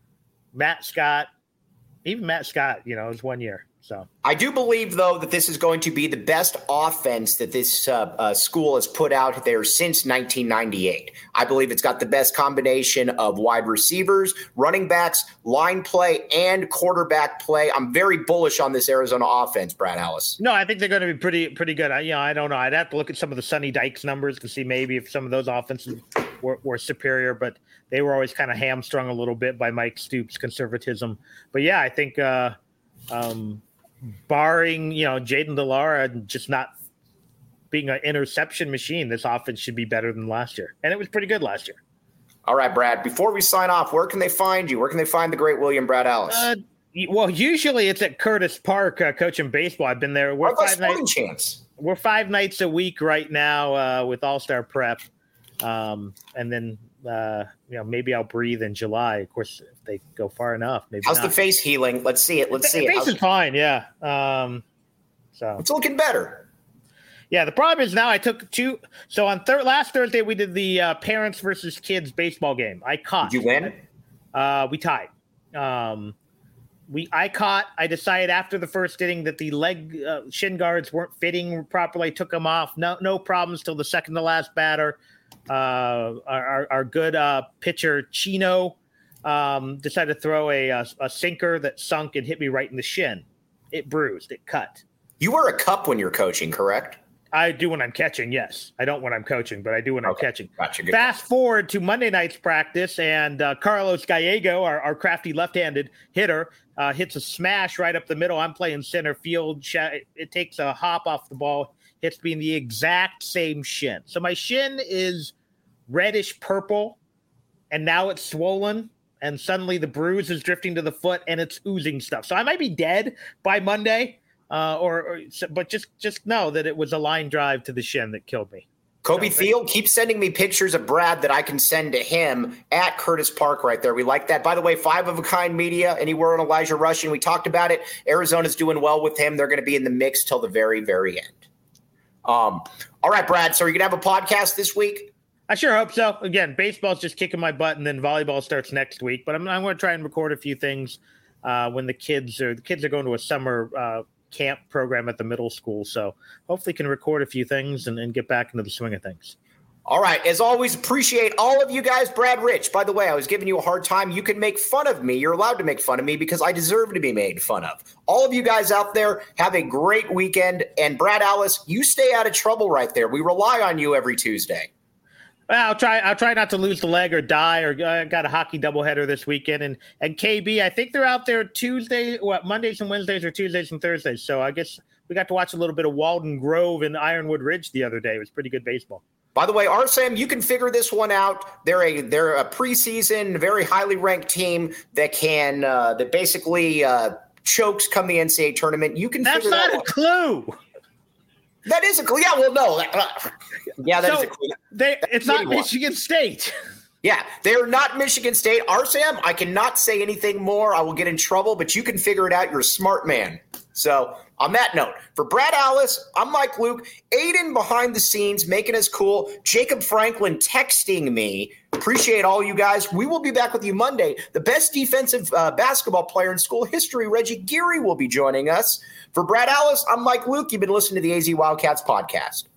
Matt Scott, even Matt Scott, you know, it was one year. So I do believe, though, that this is going to be the best offense that this uh, uh, school has put out there since nineteen ninety-eight. I believe it's got the best combination of wide receivers, running backs, line play, and quarterback play. I'm very bullish on this Arizona offense, Brad Ellis. No, I think they're going to be pretty pretty good. I, you know, I don't know. I'd have to look at some of the Sonny Dykes numbers to see maybe if some of those offenses were, were superior, but they were always kind of hamstrung a little bit by Mike Stoops' conservatism. But, yeah, I think uh, um, – barring, you know, Jayden de Laura just not being an interception machine, this offense should be better than last year. And it was pretty good last year. All right, Brad, before we sign off, where can they find you? Where can they find the great William Brad Ellis? Uh, well, usually it's at Curtis Park uh, coaching baseball. I've been there. We're five, nights, chance? we're five nights a week right now uh, with All-Star Prep. Um, and then, uh, you know, maybe I'll breathe in July. Of course, if they go far enough, maybe How's not. the face healing? Let's see it. Let's the see face it. Face is fine, yeah. Um, so it's looking better. Yeah, the problem is now I took two. So on thir- last Thursday, we did the uh, parents versus kids baseball game. I caught. Did you win? Uh, we tied. Um, we I caught. I decided after the first inning that the leg uh, shin guards weren't fitting properly. I took them off. No, no problems till the second to last batter. Uh, our, our good uh, pitcher Chino um, decided to throw a, a a sinker that sunk and hit me right in the shin. It bruised. It cut. You wear a cup when you're coaching, correct? I do when I'm catching, yes. I don't when I'm coaching, but I do when okay. I'm catching. Gotcha. Good. Fast forward to Monday night's practice, and uh, Carlos Gallego, our, our crafty left-handed hitter, uh, hits a smash right up the middle. I'm playing center field. It takes a hop off the ball, hits me in the exact same shin. So my shin is reddish purple, and now it's swollen, and suddenly the bruise is drifting to the foot, and it's oozing stuff. So I might be dead by Monday. Uh, or, or, but just just know that it was a line drive to the shin that killed me. Kobe so, Thiel, keep sending me pictures of Brad that I can send to him at Curtis Park right there. We like that. By the way, Five of a Kind Media, anywhere on Elijah Rushing. We talked about it. Arizona's doing well with him. They're going to be in the mix till the very, very end. Um, all right, Brad. So are you going to have a podcast this week? I sure hope so. Again, baseball's just kicking my butt, and then volleyball starts next week. But I'm, I'm going to try and record a few things uh, when the kids are the kids are going to a summer uh, camp program at the middle school. So hopefully can record a few things and, and get back into the swing of things. All right. As always, appreciate all of you guys. Brad Rich, by the way, I was giving you a hard time. You can make fun of me. You're allowed to make fun of me because I deserve to be made fun of. All of you guys out there, have a great weekend. And Brad Ellis, you stay out of trouble right there. We rely on you every Tuesday. Well, I'll try. I'll try not to lose the leg or die. Or I uh, got a hockey doubleheader this weekend, and and K B. I think they're out there Tuesday, what Mondays and Wednesdays, or Tuesdays and Thursdays. So I guess we got to watch a little bit of Walden Grove and Ironwood Ridge the other day. It was pretty good baseball. By the way, R S A M, you can figure this one out. They're a they're a preseason, very highly ranked team that can uh, that basically uh, chokes come the N C double A tournament. You can. That's figure not that a one. clue. That is a clue. Yeah, well, no. Uh, yeah, that so is a clue. They, it's not anyone. Michigan State. Yeah, they're not Michigan State. R S A M, I cannot say anything more. I will get in trouble, but you can figure it out. You're a smart man. So on that note, for Brad Alice, I'm Mike Luke. Aiden behind the scenes, making us cool. Jacob Franklin texting me. Appreciate all you guys. We will be back with you Monday. The best defensive uh, basketball player in school history, Reggie Geary, will be joining us. For Brad Alice, I'm Mike Luke. You've been listening to the A Z Wildcats podcast.